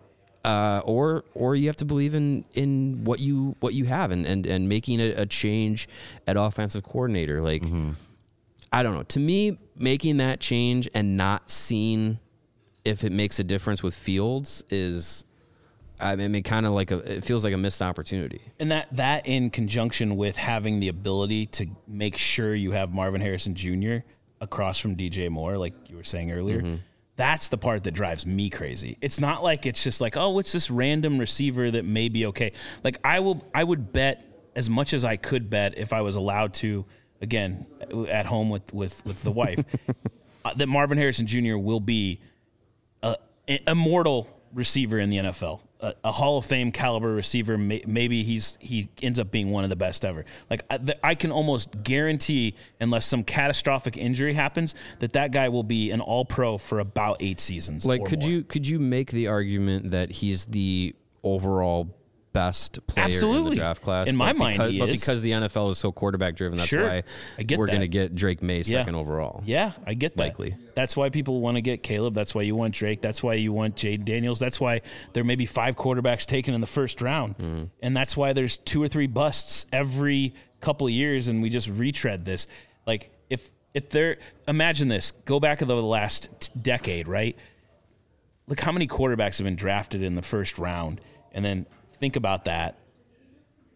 Or you have to believe in what you have and making a change at offensive coordinator. Like, I don't know. To me, making that change and not seeing if it makes a difference with Fields is, I mean, kind of like it feels like a missed opportunity. And that in conjunction with having the ability to make sure you have Marvin Harrison Jr. across from DJ Moore, like you were saying earlier. That's the part that drives me crazy. It's not like it's just like, oh, it's this random receiver that may be okay. Like I would bet as much as I could bet if I was allowed to, again, at home with the wife, that Marvin Harrison Jr. will be an immortal receiver in the NFL. A Hall of Fame caliber receiver. Maybe he ends up being one of the best ever. Like I can almost guarantee, unless some catastrophic injury happens, that guy will be an All-Pro for about 8 seasons. Like, or could more. you make the argument that he's the overall best player in the draft class? In my mind, he but is. because the NFL is so quarterback driven, that's why we're going to get Drake May second overall. Yeah, I get that. Likely. That's why people want to get Caleb. That's why you want Drake. That's why you want Jade Daniels. That's why there may be 5 quarterbacks taken in the first round. And that's why there's 2 or 3 busts every couple of years, and we just retread this. Like, if there, imagine this. Go back to the last decade, right? Look how many quarterbacks have been drafted in the first round, and then think about that.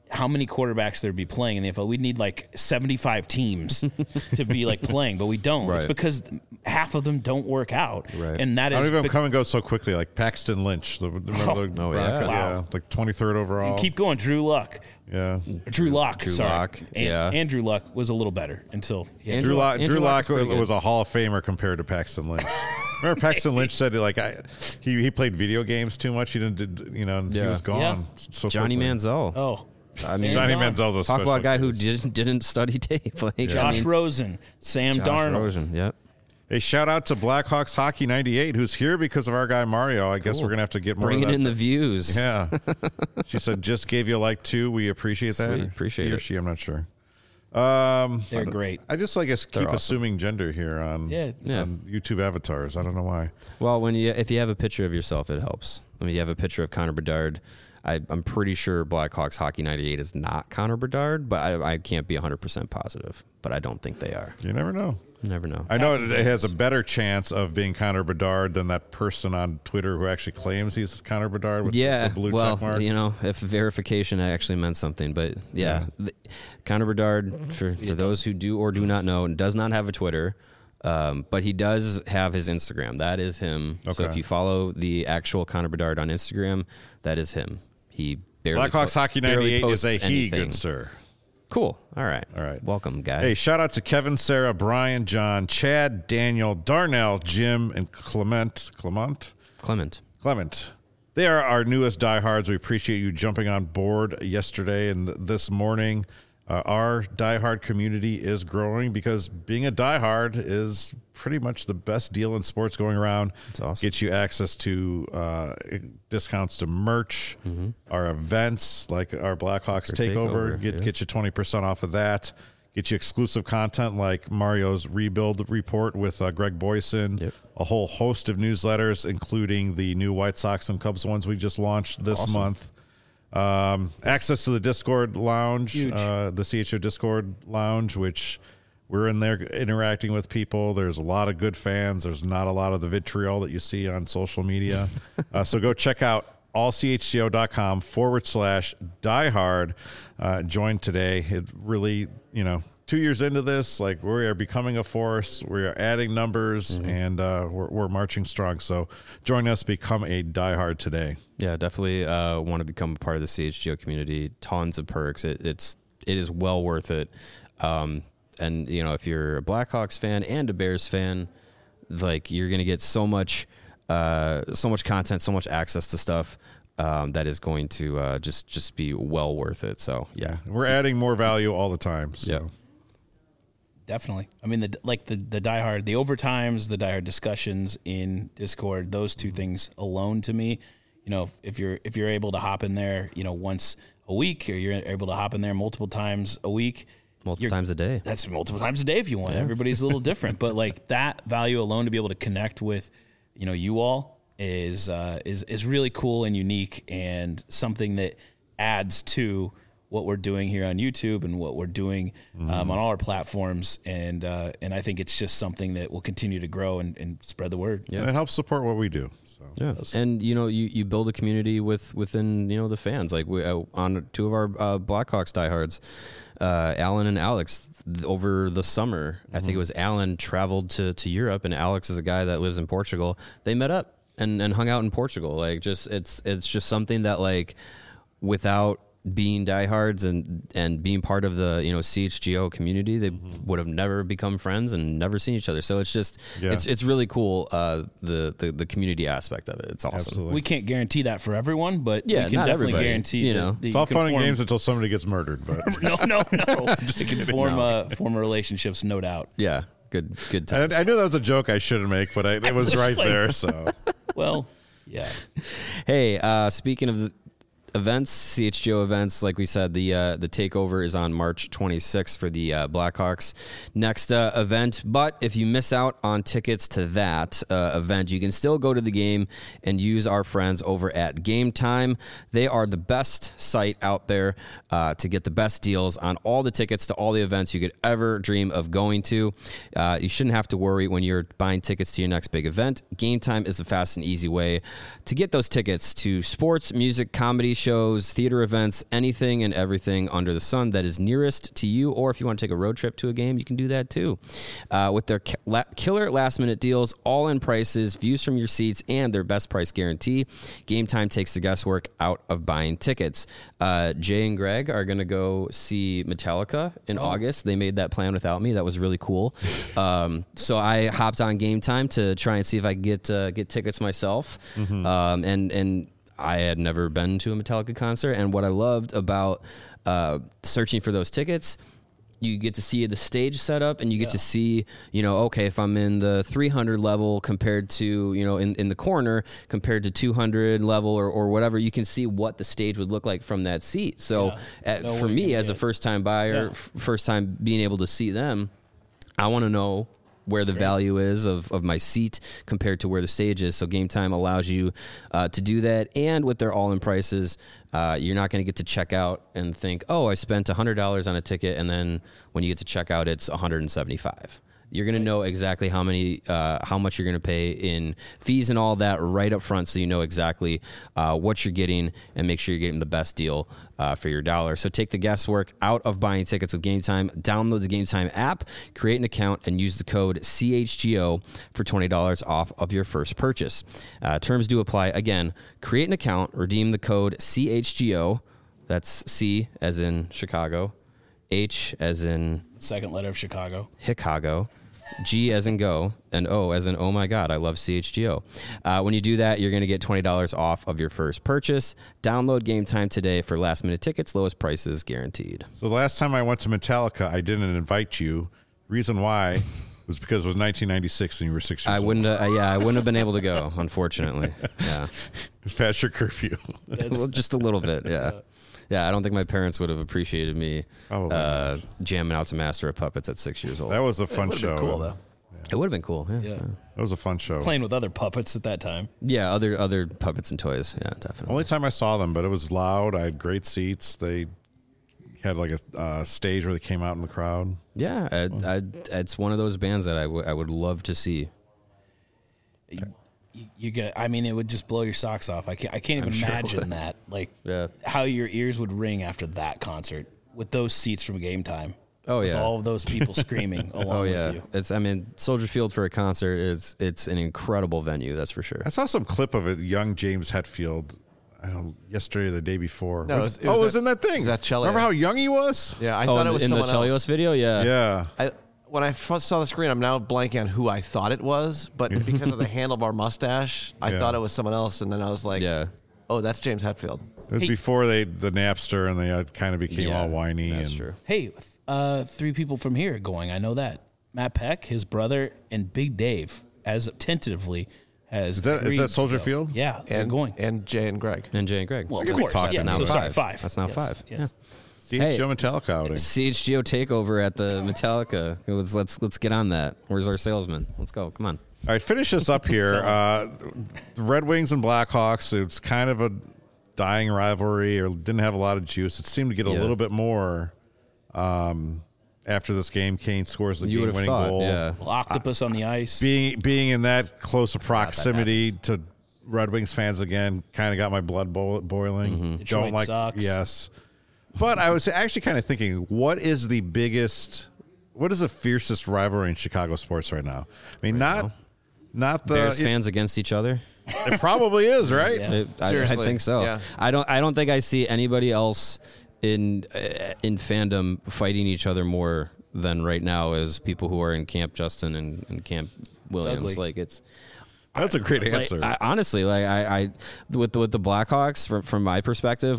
how many quarterbacks there'd be playing in the NFL. We'd need like 75 teams to be like playing, but we don't. Right. It's because half of them don't work out. Right. And that I don't is even come and go so quickly. Like Paxton Lynch, remember the Oh, yeah. Broncos? Wow. Like 23rd overall. keep going. Drew Luck. Yeah. Drew Lock. Drew sorry. Lock, And, yeah. Andrew Luck was a little better until he had Drew Lock is pretty good. was a Hall of Famer compared to Paxton Lynch. Remember Paxton Lynch said like he played video games too much. He didn't, he Yeah. was gone. Yeah. So Johnny quickly. Manziel. Oh, I mean, Johnny gone. Manziel's a talk special about a guy who case. didn't study tape. Like, I Josh mean, Rosen, Sam Josh Darnold. Rosen. Yep. Hey, shout out to Blackhawks Hockey 98, who's here because of our guy Mario. I guess we're gonna have to get more Bringing of that. in the views. Yeah. She said just gave you a like too. We appreciate that. Sweet, appreciate he or it. she, I'm not sure. They're great. I just like us keep awesome. assuming gender here on, Yeah. on YouTube avatars. I don't know why. Well, if you have a picture of yourself, it helps. I mean, you have a picture of Connor Bedard. I'm pretty sure Blackhawks Hockey 98 is not Connor Bedard, but I can't be 100% positive. But I don't think they are. You never know. You never know. I know it has a better chance of being Connor Bedard than that person on Twitter who actually claims he's Connor Bedard with Yeah, the blue well, check mark. if verification actually meant something, but Connor Bedard, for those who do or do not know, does not have a Twitter, but he does have his Instagram. That is him. So Okay. if you follow the actual Connor Bedard on Instagram, that is him. He barely Blackhawks Hockey barely 98 is a posts he, anything. good sir. Cool. All right. All right. Welcome, guy. Hey, shout out to Kevin, Sarah, Brian, John, Chad, Daniel, Darnell, Jim, and Clement. They are our newest diehards. We appreciate you jumping on board yesterday and this morning. Our diehard community is growing because being a diehard is pretty much the best deal in sports going around. That's awesome. Gets you access to discounts to merch, our events like our Blackhawks Takeover. Get you 20% off of that. Get you exclusive content like Mario's Rebuild Report with Greg Boyson. Yep. A whole host of newsletters, including the new White Sox and Cubs ones we just launched this month. Access to the Discord lounge, the CHO Discord lounge, which we're in there interacting with people. There's a lot of good fans. There's not a lot of the vitriol that you see on social media. So go check out allchgo.com/diehard. Join today. It really, 2 years into this, like we are becoming a force. We are adding numbers and we're marching strong. So join us, become a diehard today. Yeah, definitely want to become a part of the CHGO community. Tons of perks. It is well worth it. And if you're a Blackhawks fan and a Bears fan, like you're gonna get so much content, so much access to stuff that is going to just be well worth it. So yeah, We're adding more value all the time. So. Yeah. Definitely. I mean, the diehard, the overtimes, the diehard discussions in Discord, those two things alone to me, if you're able to hop in there, once a week, or you're able to hop in there multiple times a week, multiple times a day. That's multiple times a day if you want. Yeah. Everybody's a little different, but like that value alone to be able to connect with, you all is really cool and unique and something that adds to what we're doing here on YouTube and what we're doing on all our platforms. And I think it's just something that will continue to grow and spread the word. Yeah. And it helps support what we do. So. Yeah. And, you build a community within, the fans. Like we on two of our Blackhawks diehards, Alan and Alex, over the summer, I think it was Alan traveled to Europe, and Alex is a guy that lives in Portugal. They met up and hung out in Portugal. Like it's just something that like without being diehards and being part of the CHGO community, they would have never become friends and never seen each other. So it's just it's really cool, the community aspect of it. It's awesome. Absolutely. We can't guarantee that for everyone, but Yeah, we can not definitely everybody, guarantee that It's all you can fun and form- games until somebody gets murdered. But No. You can form relationships, no doubt. Yeah, good times. I knew that was a joke I shouldn't make, but it was just right like- there. So Well, yeah. Hey, speaking of the events, CHGO events, like we said, the takeover is on March 26th for the Blackhawks next event. But if you miss out on tickets to that event, you can still go to the game and use our friends over at Game Time. They are the best site out there to get the best deals on all the tickets to all the events you could ever dream of going to. You shouldn't have to worry when you're buying tickets to your next big event. Game Time is the fast and easy way to get those tickets to sports, music, comedy shows, theater events, anything and everything under the sun that is nearest to you. Or if you want to take a road trip to a game, you can do that too. With their killer last-minute deals, all-in prices, views from your seats, and their best price guarantee, Game Time takes the guesswork out of buying tickets. Jay and Greg are going to go see Metallica in August. They made that plan without me. That was really cool. So I hopped on Game Time to try and see if I could get tickets myself. And I had never been to a Metallica concert. And what I loved about searching for those tickets, you get to see the stage setup, and you get to see, okay, if I'm in the 300 level compared to, in the corner compared to 200 level or whatever, you can see what the stage would look like from that seat. So for me, as a first-time buyer, first time being able to see them, I want to know where the value is of my seat compared to where the stage is. So Game Time allows you to do that. And with their all-in prices, you're not going to get to check out and think, oh, I spent $100 on a ticket, and then when you get to check out, it's $175. You're going to know exactly how much you're going to pay in fees and all that right up front, so you know exactly what you're getting and make sure you're getting the best deal for your dollar. So take the guesswork out of buying tickets with Game Time. Download the Game Time app, create an account, and use the code CHGO for $20 off of your first purchase. Terms do apply. Again, create an account, redeem the code CHGO. That's C as in Chicago, H as in second letter of Chicago, G as in go, and O as in oh my God, I love CHGO. When you do that, you're going to get $20 off of your first purchase. Download Game Time today for last-minute tickets, lowest prices guaranteed. So the last time I went to Metallica, I didn't invite you. Reason why was because it was 1996 and you were 6 years old. I wouldn't have been able to go, unfortunately. Yeah. It's past your curfew. Well, just a little bit, yeah. Yeah, I don't think my parents would have appreciated me jamming out to Master of Puppets at 6 years old. That was a fun show. Cool though. It would have been cool. Yeah. That was a fun show. playing with other puppets at that time. Yeah, other puppets and toys. Yeah, definitely. Only time I saw them, but it was loud. I had great seats. They had like a stage where they came out in the crowd. Yeah, it's one of those bands that I would love to see. You get. I mean, it would just blow your socks off. I can't even imagine that. Like how your ears would ring after that concert with those seats from Game Time. Oh with yeah, all of those people screaming along with you. Soldier Field for a concert it's an incredible venue. That's for sure. I saw some clip of it. Young James Hetfield. I don't know, yesterday or the day before. No, it was in that thing. Was that Chelios? Remember how young he was? Yeah, I thought it was in the someone Chelios else. video. Yeah. When I first saw the screen, I'm now blanking on who I thought it was, but because of the handlebar mustache, I thought it was someone else, and then I was like, oh, that's James Hetfield. It was before the Napster, and they kind of became all whiny. That's true. Hey, three people from here going. I know that Matt Peck, his brother, and Big Dave, as tentatively has. Is that Soldier Field? Yeah, they're going. And Jay and Greg. Well, I could of be course. talking Yeah, now. so sorry, Five. five. That's now Yes, five. Yes. CHGO Metallica outing. CHGO takeover at the Metallica. Let's get on that. Where's our salesman? Let's go. Come on. All right, finish this up here. The Red Wings and Blackhawks, it's kind of a dying rivalry, or didn't have a lot of juice. It seemed to get a little bit more after this game. Kane scores the game-winning goal. Yeah. Octopus on the ice. Being in that close of proximity to Red Wings fans again kind of got my blood boiling. Mm-hmm. Detroit sucks. Yes. But I was actually kind of thinking, what is the fiercest rivalry in Chicago sports right now? I mean, not the Bears fans against each other. It probably is, right? Yeah. I think so. Yeah. I don't think I see anybody else in fandom fighting each other more than right now as people who are in Camp Justin and Camp Williams. That's a great answer. Honestly, with the Blackhawks, from my perspective,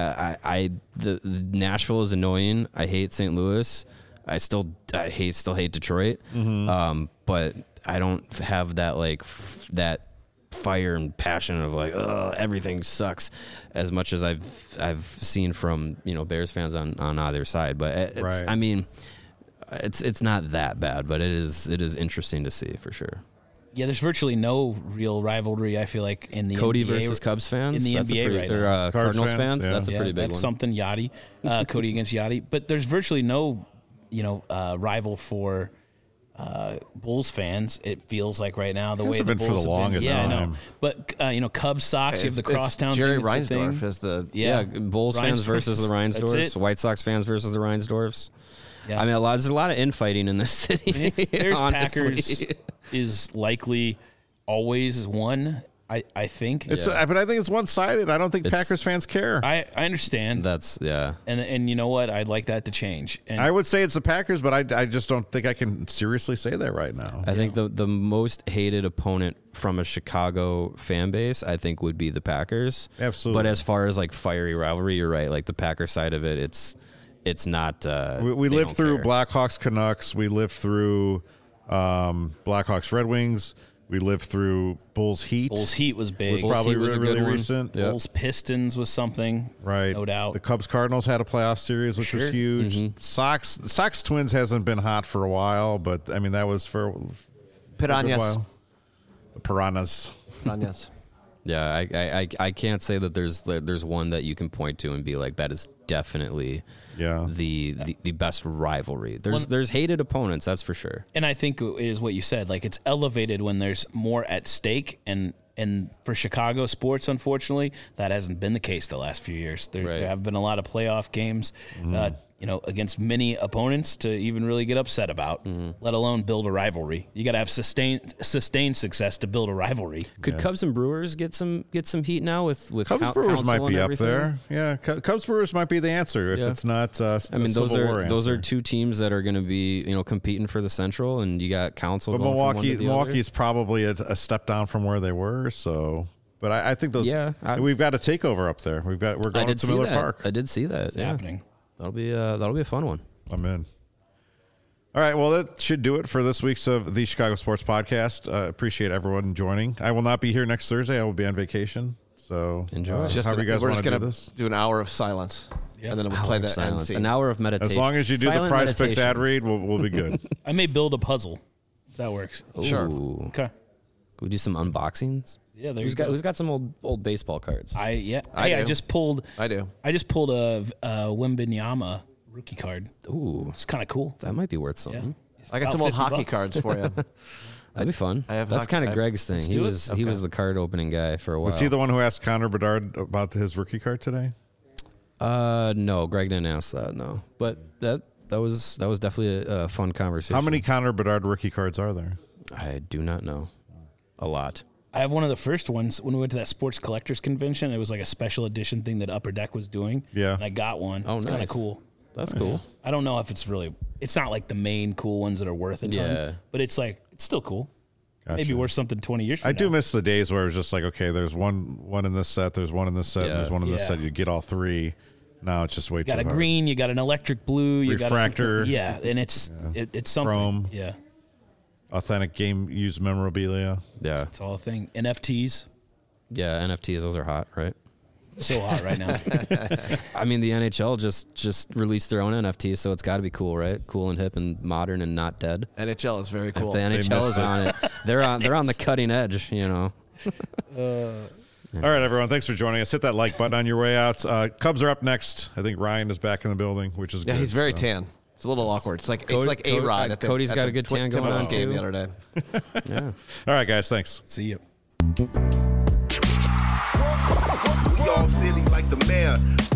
the Nashville is annoying. I hate St. Louis. I still hate Detroit. Mm-hmm. But I don't have that that fire and passion of everything sucks as much as I've seen from Bears fans on either side. But I mean, it's not that bad, but it is interesting to see for sure. Yeah, there's virtually no real rivalry, I feel like, in the Cody NBA, versus Cubs fans? In the NBA right now. Or Cardinals fans? Yeah. That's a pretty big that's one. something, Yachty. Cody against Yachty. But there's virtually no, rival for Bulls fans, it feels like right now the way Hasn't the been for Bulls the have longest been. Yeah, I know. time. But Cubs, Sox, you have the crosstown. Jerry thing, it's a Reinsdorf thing. is the Yeah, Bulls fans versus the That's Reinsdorfs, it. White Sox fans versus the Reinsdorfs. Yeah. I mean, there's a lot of infighting in this city. There's honestly. Packers is likely always one. I think. But I think it's one-sided. I don't think Packers fans care. I understand. That's And you know what? I'd like that to change. And I would say it's the Packers, but I just don't think I can seriously say that right now. I think the most hated opponent from a Chicago fan base, I think, would be the Packers. Absolutely. But as far as like fiery rivalry, you're right. Like the Packer side of it, it's not. We lived through care. Blackhawks, Canucks. We lived through Blackhawks, Red Wings. We lived through Bulls, Heat. Bulls Heat was big. Bulls Probably Heat was a really good one. recent. Yeah. Bulls Pistons was something. Right. No doubt. The Cubs Cardinals had a playoff series, which was Sure. huge. Sox Twins hasn't been hot for a while, but I mean that was for a good Piranhas. while. The Piranhas. Piranhas. Yeah, I can't say that there's one that you can point to and be like that is definitely the best rivalry. There's hated opponents, that's for sure. And I think it is what you said. Like it's elevated when there's more at stake, and for Chicago sports, unfortunately, that hasn't been the case the last few years. There have been a lot of playoff games, against many opponents to even really get upset about, let alone build a rivalry. You got to have sustained success to build a rivalry. Could Cubs and Brewers get some heat now with Cubs Brewers might be up everything? there. Yeah, Cubs Brewers might be the answer if it's not. I mean, those Civil War are answer. two teams that are going to be competing for the Central, and you got Council. But going from one to the Milwaukee's other. probably a step down from where they were. So, but I think those. Yeah, we've got a takeover up there. We're going to Miller Park. I did see that. It's happening. That'll be a fun one. I'm in. All right, well, that should do it for this week's of the Chicago Sports Podcast. Appreciate everyone joining. I will not be here next Thursday. I will be on vacation. So Enjoy. However you guys we're want just to do gonna this. do an hour of silence, and then we'll play the end Silence. scene. An hour of meditation. As long as you do Silent the Prize Picks meditation. ad read, we'll be good. I may build a puzzle if that works. Sure. Ooh. Okay. Could we do some unboxings? Yeah, there Who's you go. got some old baseball cards? I do. just pulled I do. a Wembanyama rookie card. Ooh, It's kind of cool. that might be worth Yeah. something. I got About some old $50. hockey cards for you. That'd be fun. I have That's hockey- kind I- of Greg's thing. He do it. was the card opening guy for a while. Was he the one who asked Connor Bedard about his rookie card today? No, Greg didn't ask that. No, but that was definitely a fun conversation. How many Connor Bedard rookie cards are there? I do not know. A lot. I have one of the first ones when we went to that sports collectors convention. It was like a special edition thing that Upper Deck was doing. Yeah. And I got one. Oh, it's kind of nice. cool. That's cool. I don't know if it's not like the main cool ones that are worth a ton. Yeah. But it's still cool. Gotcha. Maybe worth something 20 years from I now. do miss the days where it was just like, okay, there's one in this set, there's one in this set, and there's one in this Yeah. set. You get all three. Now it's just way You got too a hard. green, you got an electric blue, you Refractor. got and it's something. Chrome. Yeah. Authentic game used memorabilia. Yeah. It's all a thing. NFTs. Yeah. NFTs. Those are hot, right? So hot right now. I mean, the NHL just released their own NFTs, so it's got to be cool, right? Cool and hip and modern and not dead. NHL is very cool. If the NHL missed is on it, they're on the cutting edge. All right, everyone. Thanks for joining us. Hit that like button on your way out. Cubs are up next. I think Ryan is back in the building, which is Yeah, good. he's very so. tan. It's a little awkward. It's like Cody- A-Rod at the Cody's at got the a good tan going Timberwolves on, game too. the other day. Yeah. All right, guys. Thanks. See you. We all silly like the mayor.